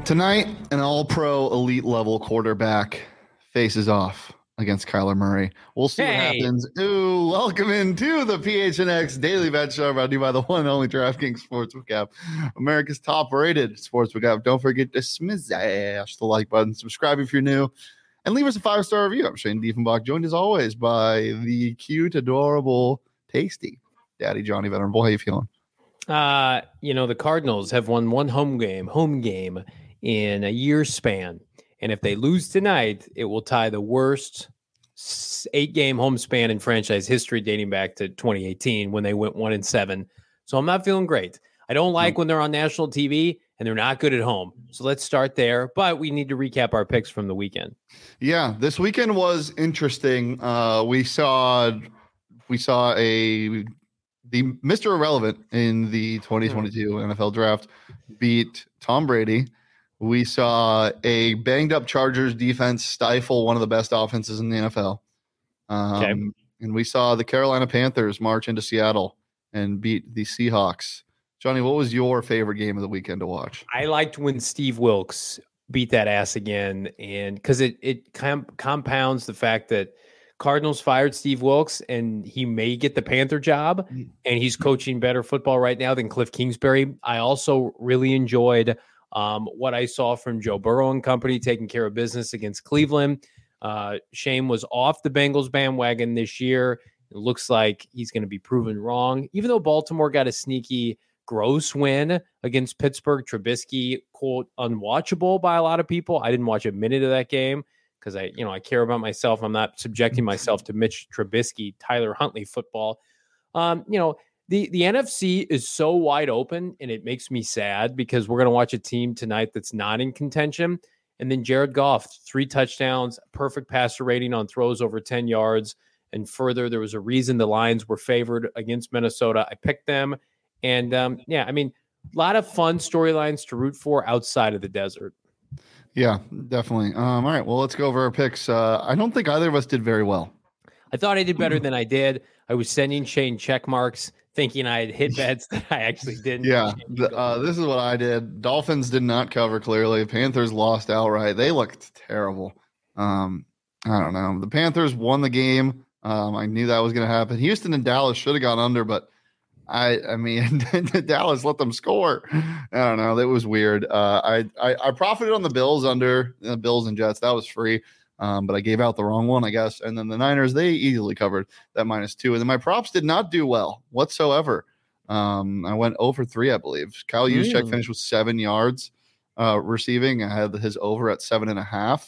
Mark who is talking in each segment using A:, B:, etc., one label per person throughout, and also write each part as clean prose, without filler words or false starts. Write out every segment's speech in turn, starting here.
A: Tonight, an all-pro elite level quarterback faces off against Kyler Murray. We'll see what happens. Ooh, welcome into the PHNX Daily Bet Show, brought to you by the one and only DraftKings Sportsbook app, America's top-rated sportsbook app. Don't forget to smash the like button, subscribe if you're new, and leave us a 5-star review. I'm Shane Diefenbach, joined as always by the cute, adorable, tasty Daddy Johnny Venerable. How you feeling?
B: The Cardinals have won one home game in a year span. And if they lose tonight, it will tie the worst 8-game home span in franchise history dating back to 2018 when they went 1-7. So I'm not feeling great. I don't like when they're on national TV and they're not good at home. So let's start there. But we need to recap our picks from the weekend.
A: Yeah, this weekend was interesting. We saw the Mr. Irrelevant in the 2022 NFL draft beat Tom Brady. We saw a banged-up Chargers defense stifle one of the best offenses in the NFL. And we saw the Carolina Panthers march into Seattle and beat the Seahawks. Johnny, what was your favorite game of the weekend to watch?
B: I liked when Steve Wilks beat that ass again, and because it compounds the fact that Cardinals fired Steve Wilks, and he may get the Panther job, and he's coaching better football right now than Cliff Kingsbury. I also really enjoyed what I saw from Joe Burrow and company taking care of business against Cleveland. Shane was off the Bengals bandwagon this year. It looks like he's going to be proven wrong. Even though Baltimore got a sneaky, gross win against Pittsburgh, Trubisky, quote, unwatchable by a lot of people. I didn't watch a minute of that game because I care about myself. I'm not subjecting myself to Mitch Trubisky, Tyler Huntley football. The NFC is so wide open, and it makes me sad because we're going to watch a team tonight that's not in contention. And then Jared Goff, 3 touchdowns, perfect passer rating on throws over 10 yards. And further, there was a reason the Lions were favored against Minnesota. I picked them. And, a lot of fun storylines to root for outside of the desert.
A: Yeah, definitely. All right, well, let's go over our picks. I don't think either of us did very well.
B: I thought I did better than I did. I was sending Shane check marks, thinking I had hit bets that I actually didn't.
A: Yeah, this is what I did. Dolphins did not cover clearly. Panthers lost outright. They looked terrible. I don't know. The Panthers won the game. I knew that was going to happen. Houston and Dallas should have gone under, but I mean, Dallas let them score. I don't know. That was weird. I profited on the Bills under the Bills and Jets. That was free. But I gave out the wrong one, I guess. And then the Niners, they easily covered that -2. And then my props did not do well whatsoever. I went over 3, I believe. Kyle Juszczyk finished with 7 yards receiving. I had his over at 7.5.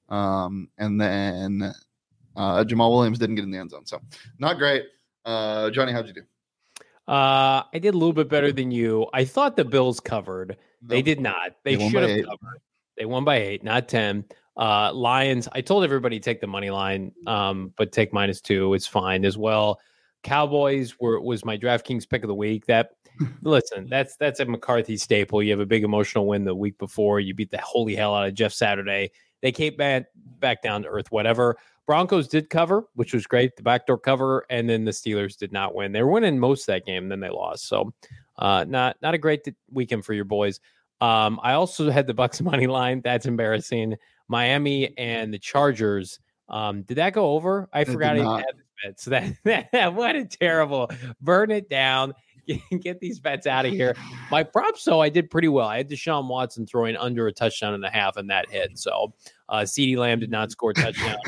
A: And then Jamal Williams didn't get in the end zone. So not great. Johnny, how'd you do?
B: I did a little bit better than you. I thought the Bills covered. They did not. They should have covered. They won by 8, not 10. Lions, I told everybody take the money line, but take -2. It's fine as well. Cowboys was my DraftKings pick of the week. Listen, that's a McCarthy staple. You have a big emotional win the week before. You beat the holy hell out of Jeff Saturday. They came back down to earth, whatever. Broncos did cover, which was great, the backdoor cover, and then the Steelers did not win. They were winning most of that game, and then they lost. So not a great weekend for your boys. I also had the Bucs money line. That's embarrassing. Miami and the Chargers. Did that go over? I forgot I even had this bet. So that what a terrible burn it down. Get these bets out of here. My props, though, I did pretty well. I had Deshaun Watson throwing under a touchdown and a half, and that hit. So CeeDee Lamb did not score a touchdown.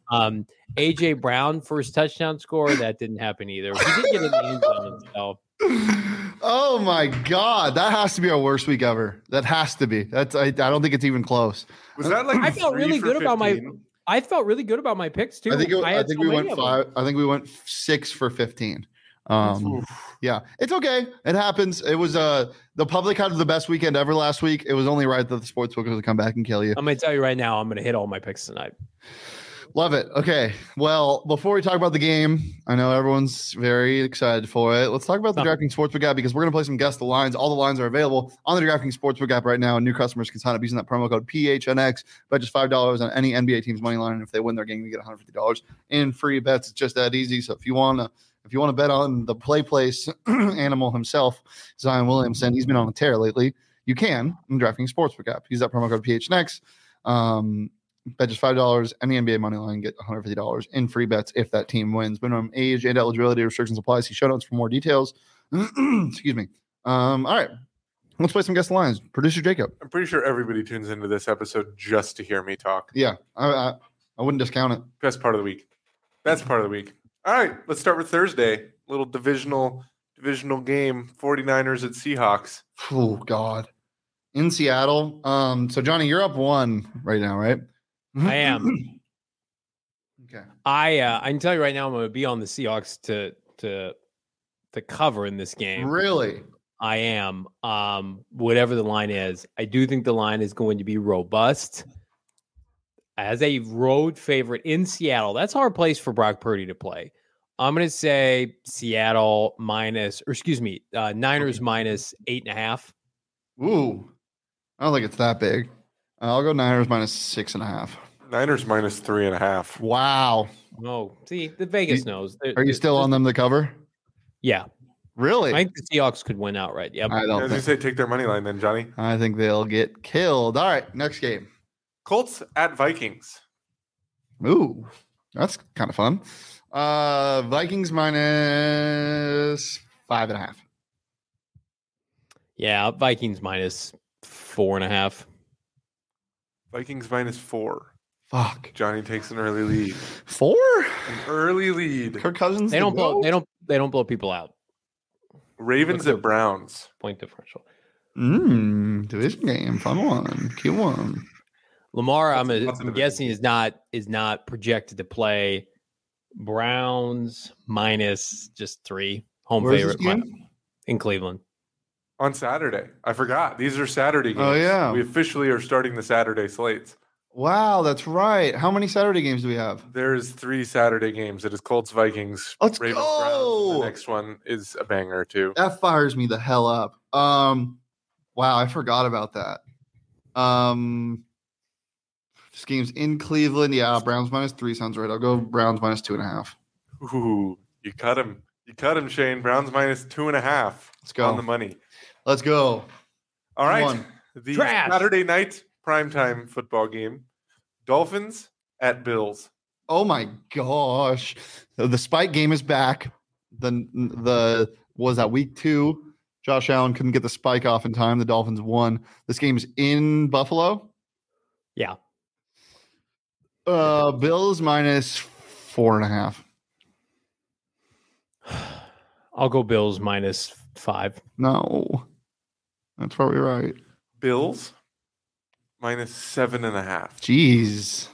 B: A.J. Brown first touchdown score, that didn't happen either. He did get in the end zone. So.
A: Oh my God, that has to be our worst week ever. That has to be. I don't think it's even close.
C: Was that like
B: I felt really good 15? I felt really good about my picks too.
A: I think we went 5. I think we went 6 for 15. Yeah, it's okay. It happens. It was the public had the best weekend ever last week. It was only right that the sportsbook was going to come back and kill you.
B: I'm going to tell you right now, I'm going to hit all my picks tonight.
A: Love it. Okay. Well, before we talk about the game, I know everyone's very excited for it. Let's talk about the DraftKings Sportsbook app because we're going to play some Guess the Lines. All the lines are available on the DraftKings Sportsbook app right now, and new customers can sign up using that promo code PHNX. Bet just $5 on any NBA team's money line, and if they win their game, you get $150 in free bets. It's just that easy. So if you want to bet on the play place animal himself, Zion Williamson, he's been on a tear lately. You can in DraftKings Sportsbook app. Use that promo code PHNX. Bet just $5. Any NBA money line, get $150 in free bets if that team wins. Minimum age and eligibility restrictions apply. See show notes for more details. Excuse me. All right. Let's play some guess the lines. Producer Jacob.
C: I'm pretty sure everybody tunes into this episode just to hear me talk.
A: Yeah, I wouldn't discount it.
C: Best part of the week. Best part of the week. All right, let's start with Thursday. Little divisional game. 49ers at Seahawks.
A: Oh God. In Seattle. So Johnny, you're up 1 right now, right?
B: I am.
A: Okay.
B: I can tell you right now, I'm going to be on the Seahawks to cover in this game.
A: Really?
B: I am. Whatever the line is, I do think the line is going to be robust. As a road favorite in Seattle, that's a hard place for Brock Purdy to play. I'm going to say Niners minus 8.5.
A: Ooh. I don't think it's that big. I'll go Niners minus 6.5.
C: Niners minus 3.5.
A: Wow.
B: Oh, see, the Vegas knows.
A: Are you still on them to cover?
B: Yeah.
A: Really?
B: I think the Seahawks could win outright. Yep.
A: I don't
C: As you say, take their money line then, Johnny.
A: I think they'll get killed. All right, next game.
C: Colts at Vikings.
A: Ooh, that's kind of fun. Vikings minus 5.5.
B: Yeah, Vikings minus 4.5.
C: Vikings minus 4.
A: Fuck.
C: Johnny takes an early lead.
A: 4?
C: An early lead.
A: Kirk Cousins.
B: They don't blow people out.
C: Ravens at Browns.
B: Point differential.
A: Division game, fun one. Q1.
B: Lamar, I'm guessing is not projected to play. Browns minus just 3. Home
A: Where's
B: favorite
A: this game?
B: in Cleveland.
C: On Saturday. I forgot. These are Saturday games.
A: Oh, yeah.
C: We officially are starting the Saturday slates.
A: Wow, that's right. How many Saturday games do we have?
C: There's 3 Saturday games. It is Colts, Vikings,
A: Let's
C: Ravens,
A: go.
C: Browns. The next one is a banger too.
A: That fires me the hell up. Wow, I forgot about that. This game's in Cleveland. Yeah, Browns minus 3 sounds right. I'll go Browns minus 2.5.
C: Ooh, you cut him. You cut him, Shane. Browns minus 2.5.
A: Let's go.
C: On the money.
A: Let's go.
C: All right.
A: One.
C: The
B: Trash.
C: Saturday night primetime football game. Dolphins at Bills.
A: Oh my gosh. The spike game is back. The was that week 2. Josh Allen couldn't get the spike off in time. The Dolphins won. This game's in Buffalo.
B: Yeah.
A: Bills minus 4.5.
B: I'll go Bills minus 5.
A: No. That's probably right.
C: Bills minus 7.5.
A: Jeez.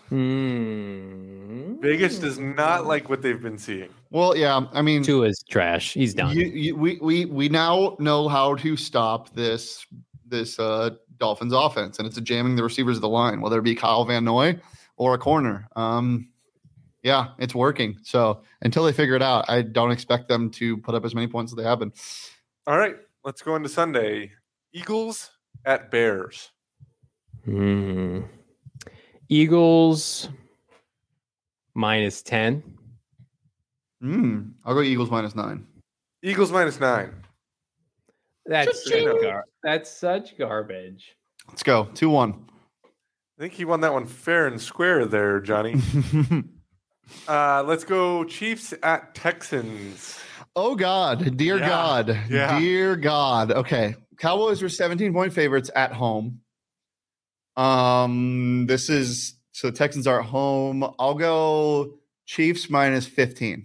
C: Vegas does not like what they've been seeing.
A: Well, yeah. I mean,
B: Tua is trash. He's done.
A: We now know how to stop this Dolphins offense, and it's jamming the receivers of the line, whether it be Kyle Van Noy or a corner. Yeah, it's working. So until they figure it out, I don't expect them to put up as many points as they have been.
C: All right, let's go into Sunday. Eagles at Bears.
B: Eagles minus 10.
A: I'll go Eagles minus 9.
C: Eagles minus 9.
B: That's such garbage.
A: Let's go 2-1.
C: I think he won that one fair and square there, Johnny. Let's go Chiefs at Texans.
A: Oh, God. Dear God.
C: Yeah.
A: Dear God. Okay. Cowboys were 17-point favorites at home. So Texans are at home. I'll go Chiefs minus 15.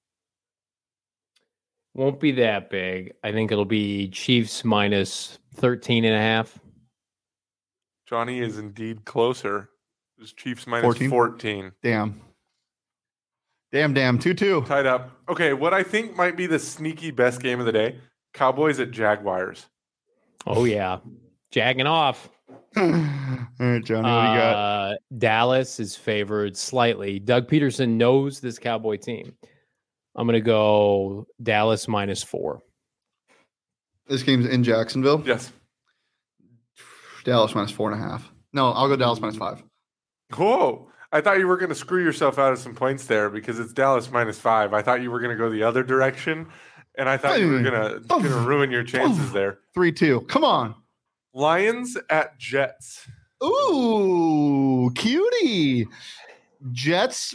B: Won't be that big. I think it'll be Chiefs minus 13.5.
C: Johnny is indeed closer. It was Chiefs minus 14.
A: Damn. 2-2.
C: Tied up. Okay, what I think might be the sneaky best game of the day, Cowboys at Jaguars.
B: Oh, yeah. Jagging off.
A: All right, Johnny, what do you got?
B: Dallas is favored slightly. Doug Peterson knows this Cowboy team. I'm going to go Dallas minus 4.
A: This game's in Jacksonville.
C: Yes.
A: Dallas minus 4.5. No, I'll go Dallas minus 5.
C: Whoa. I thought you were going to screw yourself out of some points there because it's Dallas minus 5. I thought you were going to go the other direction, and I thought you were going to ruin your chances there.
A: 3-2. Come on.
C: Lions at Jets.
A: Ooh, cutie. Jets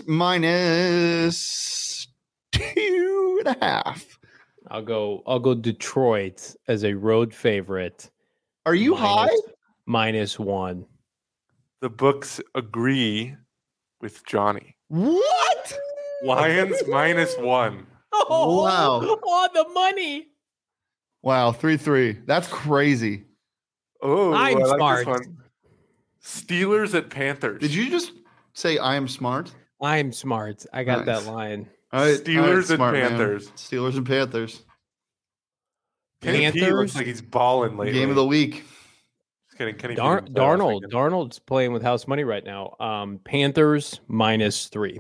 A: minus 2.5.
B: I'll go Detroit as a road favorite.
A: Are you high?
B: -1.
C: The books agree with Johnny.
A: What?
C: Lions -1.
B: Oh,
A: Wow.
B: on the money.
A: Wow, 3-3. That's crazy.
C: Oh,
B: I'm
C: I like
B: smart.
C: this one. Steelers at Panthers.
A: Did you just say I am smart?
B: I'm smart. I got
A: Nice.
B: that line.
A: All right,
C: Steelers and
A: smart man.
C: Panthers.
A: Steelers and Panthers.
C: Kenny P looks like he's balling lately.
A: Game of the week.
C: Just kidding. Kenny P didn't play last
B: Darnold.
C: weekend.
B: Darnold's playing with house money right now. Panthers -3.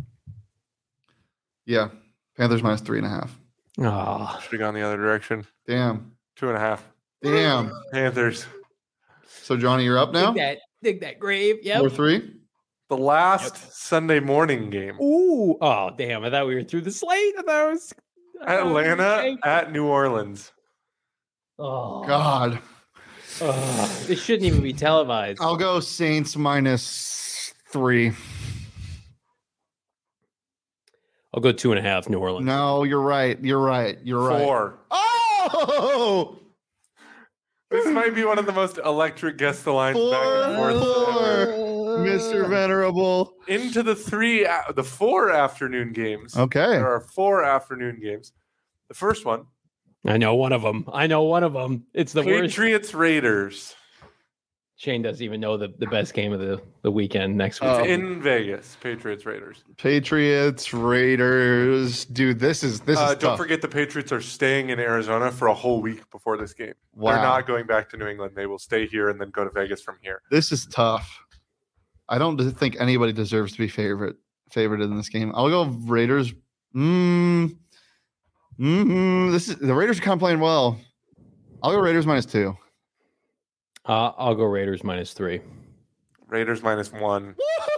A: Yeah. Panthers minus 3.5.
B: Ah,
C: Should have gone the other direction.
A: Damn.
C: 2.5.
A: Damn.
C: Panthers.
A: So Johnny, you're up now?
B: dig that grave. Yep.
A: 4-3.
C: The last Sunday morning game.
B: Ooh. Oh, damn. I thought we were through the slate. I thought it was
C: Atlanta at New Orleans.
B: Oh,
A: God.
B: This shouldn't even be televised.
A: I'll go Saints minus 3.
B: I'll go 2.5 New Orleans.
A: No, you're right. You're right. You're right.
C: 4.
A: Oh!
C: This might be one of the most electric guess the lines back and
A: 4,
C: forth ever.
A: Mr. Venerable.
C: Into the 4 afternoon games.
A: Okay.
C: There are 4 afternoon games. The first one,
B: I know one of them. It's the worst.
C: Patriots Raiders.
B: Shane doesn't even know the best game of the weekend next week.
A: Oh.
C: In Vegas, Patriots Raiders.
A: Patriots, Raiders. Dude, this is
C: Don't
A: tough.
C: forget the Patriots are staying in Arizona for a whole week before this game.
A: Wow.
C: They're not going back to New England. They will stay here and then go to Vegas from here.
A: This is tough. I don't think anybody deserves to be favored in this game. I'll go Raiders. The Raiders are kind of playing well. I'll go Raiders minus 2.
B: I'll go Raiders -3.
C: Raiders -1.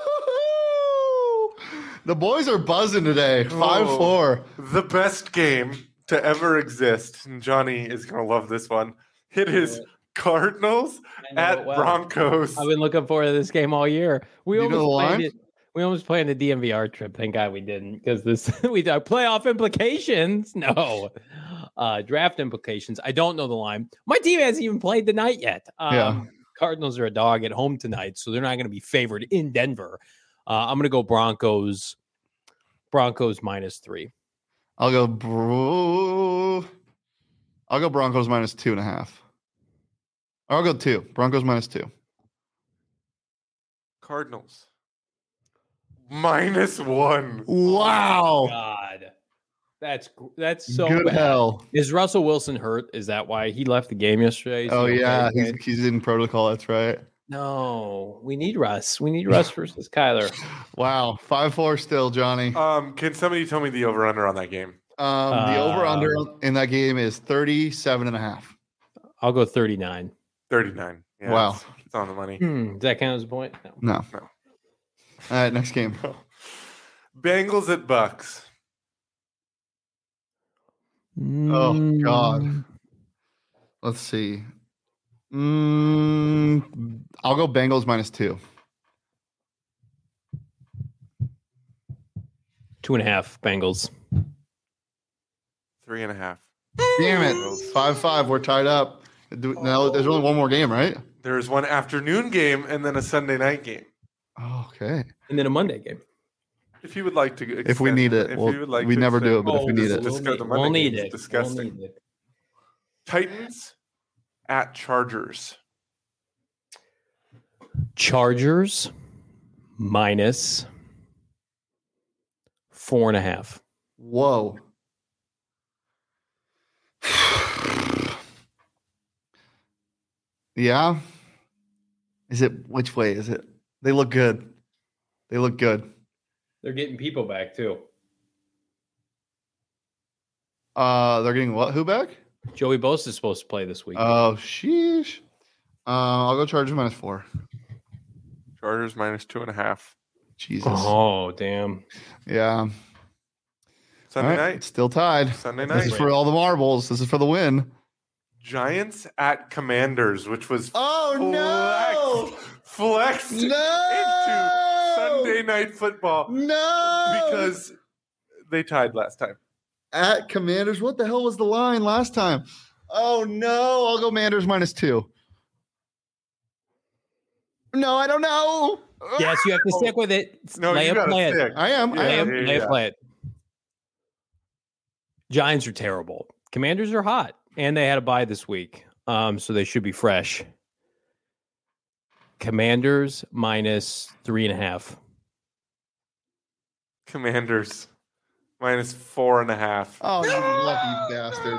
A: The boys are buzzing today. 5-4.
C: The best game to ever exist. And Johnny is going to love this one. It is Cardinals at Broncos.
B: I've been looking forward to this game all year. We
A: You know the
B: almost
A: line?
B: played it. We almost planned a DMVR trip. Thank God we didn't, because this we got playoff implications. No, draft implications. I don't know the line. My team hasn't even played the night yet.
A: Yeah.
B: Cardinals are a dog at home tonight, so they're not going to be favored in Denver. I'm going to go Broncos. Broncos -3.
A: I'll go Broncos minus 2.5. I'll go 2. Broncos minus 2.
C: Cardinals -1.
A: Wow.
B: God, that's so
A: Good
B: bad.
A: hell.
B: Is Russell Wilson hurt? Is that why he left the game yesterday? Is
A: Oh,
B: he
A: yeah.
B: okay?
A: He's in protocol. That's right.
B: No, we need Russ. We need Russ versus Kyler.
A: Wow. 5-4 still, Johnny.
C: Can somebody tell me the over-under on that game?
A: The over-under in that game is 37.5.
B: I'll go 39.
C: 39. Yeah,
A: Wow.
C: It's on the money.
B: Does that count as a point? No.
A: No.
C: No.
A: All right, next game.
C: Bengals at Bucks.
A: Oh, God. Let's see. I'll go Bengals minus 2.
B: 2.5 Bengals.
C: 3.5.
A: Damn it. 5-5. We're tied up. Now there's only one more game, right?
C: There's one afternoon game and then a Sunday night game.
A: Oh, okay.
B: And then a Monday game.
C: If you would like to,
A: If we need it, we never do it, but if we need it,
C: We'll
B: need it.
C: Disgusting.
B: We'll need it.
C: Titans at Chargers.
B: Chargers minus 4.5.
A: whoa. Yeah. Is it which way is it? They look good. They look good.
B: They're getting people back too.
A: They're getting what? Who back?
B: Joey Bosa is supposed to play this week.
A: Oh, sheesh. I'll go Chargers minus 4.
C: Chargers -2.5.
A: Jesus.
B: Oh, damn.
A: Yeah.
C: Sunday
A: All right,
C: night.
A: still tied.
C: Sunday
A: This
C: night.
A: is for all the marbles. This is for the win.
C: Giants at Commanders, which was flexed into Sunday Night Football.
A: No,
C: because they tied last time.
A: At Commanders, what the hell was the line last time? Oh no, I'll go Commanders -2. No, I don't know.
B: Yes, you have to stick with it.
C: No, you gotta stick.
A: I am.
B: Play it. Giants are terrible. Commanders are hot, and they had a bye this week, so they should be fresh. Commanders -3.5.
C: Commanders -4.5.
A: Oh, you lucky bastard!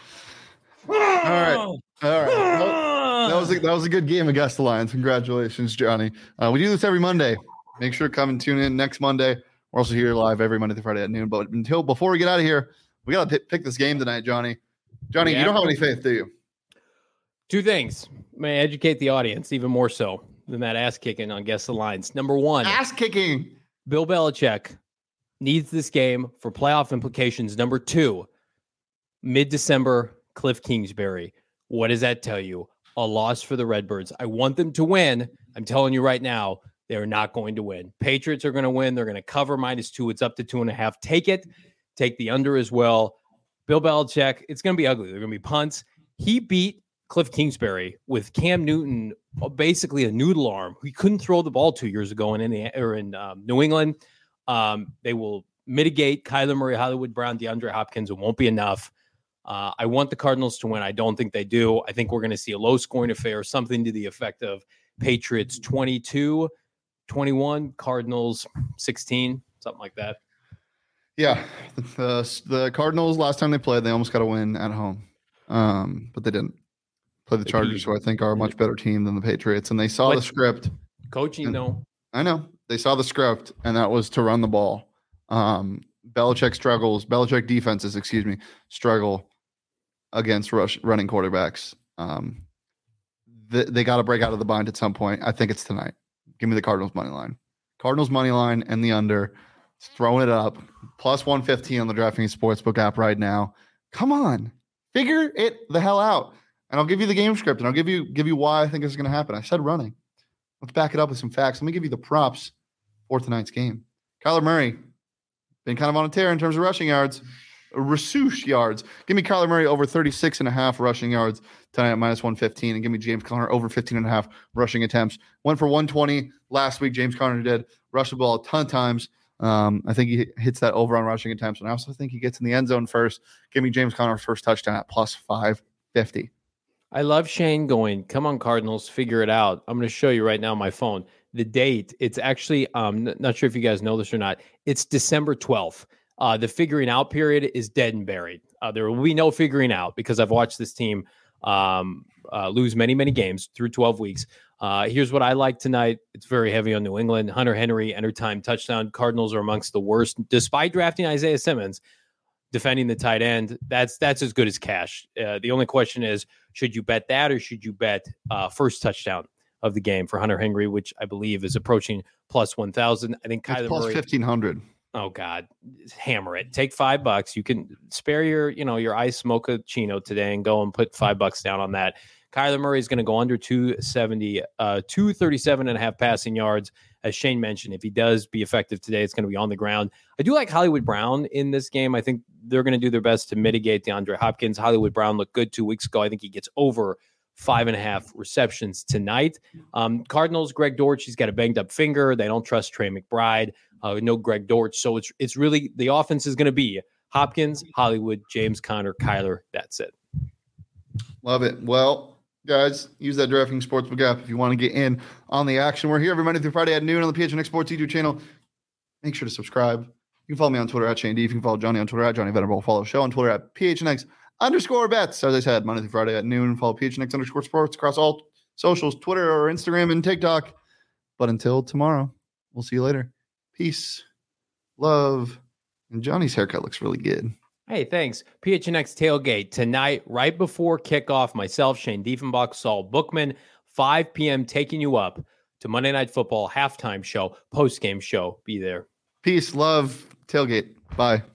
A: All right. That was a good game against the Lions. Congratulations, Johnny. We do this every Monday. Make sure to come and tune in next Monday. We're also here live every Monday through Friday at noon. But before we get out of here, we got to pick this game tonight, Johnny. Johnny, you don't have any faith, do you?
B: Two things. May I educate the audience even more so than that ass kicking on Guess the Lines. Number one,
A: ass kicking.
B: Bill Belichick needs this game for playoff implications. Number two, mid-December, Cliff Kingsbury. What does that tell you? A loss for the Redbirds. I want them to win. I'm telling you right now, they're not going to win. Patriots are going to win. They're going to cover -2. It's up to 2.5. Take it. Take the under as well. Bill Belichick, it's going to be ugly. They're going to be punts. He beat Cliff Kingsbury with Cam Newton, basically a noodle arm. He couldn't throw the ball 2 years ago in New England. They will mitigate Kyler Murray, Hollywood Brown, DeAndre Hopkins. It won't be enough. I want the Cardinals to win. I don't think they do. I think we're going to see a low-scoring affair, something to the effect of Patriots 22-21, Cardinals 16, something like that.
A: Yeah, the Cardinals, last time they played, they almost got a win at home, but they didn't. Play the Chargers, who I think are a much better team than the Patriots, and they saw the script.
B: Coaching, though.
A: I know. They saw the script, and that was to run the ball. Belichick defenses, struggle against running quarterbacks. They got to break out of the bind at some point. I think it's tonight. Give me the Cardinals money line. Cardinals money line and the under. Throwing it up. +115 on the DraftKings Sportsbook app right now. Come on. Figure it the hell out. And I'll give you the game script, and I'll give you why I think this is going to happen. I said running. Let's back it up with some facts. Let me give you the props for tonight's game. Kyler Murray, been kind of on a tear in terms of rushing yards. Rasouche yards. Give me Kyler Murray over 36.5 rushing yards tonight at -115, and give me James Conner over 15.5 rushing attempts. Went for 120 last week. James Conner did. Rushed the ball a ton of times. I think he hits that over on rushing attempts, and I also think he gets in the end zone first. Give me James Conner's first touchdown at +550.
B: I love Shane going, come on, Cardinals, figure it out. I'm going to show you right now on my phone. The date, it's actually, not sure if you guys know this or not, it's December 12th. The figuring out period is dead and buried. There will be no figuring out because I've watched this team lose many, many games through 12 weeks. Here's what I like tonight. It's very heavy on New England. Hunter Henry, end-of-time touchdown. Cardinals are amongst the worst, despite drafting Isaiah Simmons. Defending the tight end, that's as good as cash. The only question is, should you bet that or should you bet first touchdown of the game for Hunter Henry, which I believe is approaching +1,000. I think Kyler Murray
A: +1,500.
B: Oh God, hammer it. Take $5. You can spare your ice mochaccino today and go and put $5 down on that. Kyler Murray is going to go under 270, 237.5 passing yards. As Shane mentioned, if he does be effective today, it's going to be on the ground. I do like Hollywood Brown in this game. I think they're going to do their best to mitigate DeAndre Hopkins. Hollywood Brown looked good 2 weeks ago. I think he gets over 5.5 receptions tonight. Cardinals, Greg Dortch, he's got a banged up finger. They don't trust Trey McBride. No Greg Dortch. So it's really the offense is going to be Hopkins, Hollywood, James Conner, Kyler. That's it.
A: Love it. Well, guys, use that DraftKings Sportsbook app if you want to get in on the action. We're here every Monday through Friday at noon on the PHNX Sports YouTube channel. Make sure to subscribe. You can follow me on Twitter at Shane D. You can follow Johnny on Twitter at Johnny Venerable. Follow the show on Twitter at PHNX_bets. As I said, Monday through Friday at noon. Follow PHNX_sports across all socials, Twitter or Instagram and TikTok. But until tomorrow, we'll see you later. Peace, love, and Johnny's haircut looks really good.
B: Hey, thanks. PHNX Tailgate tonight, right before kickoff. Myself, Shane Diefenbach, Saul Bookman, 5 p.m. taking you up to Monday Night Football halftime show, post-game show. Be there.
A: Peace, love, tailgate. Bye.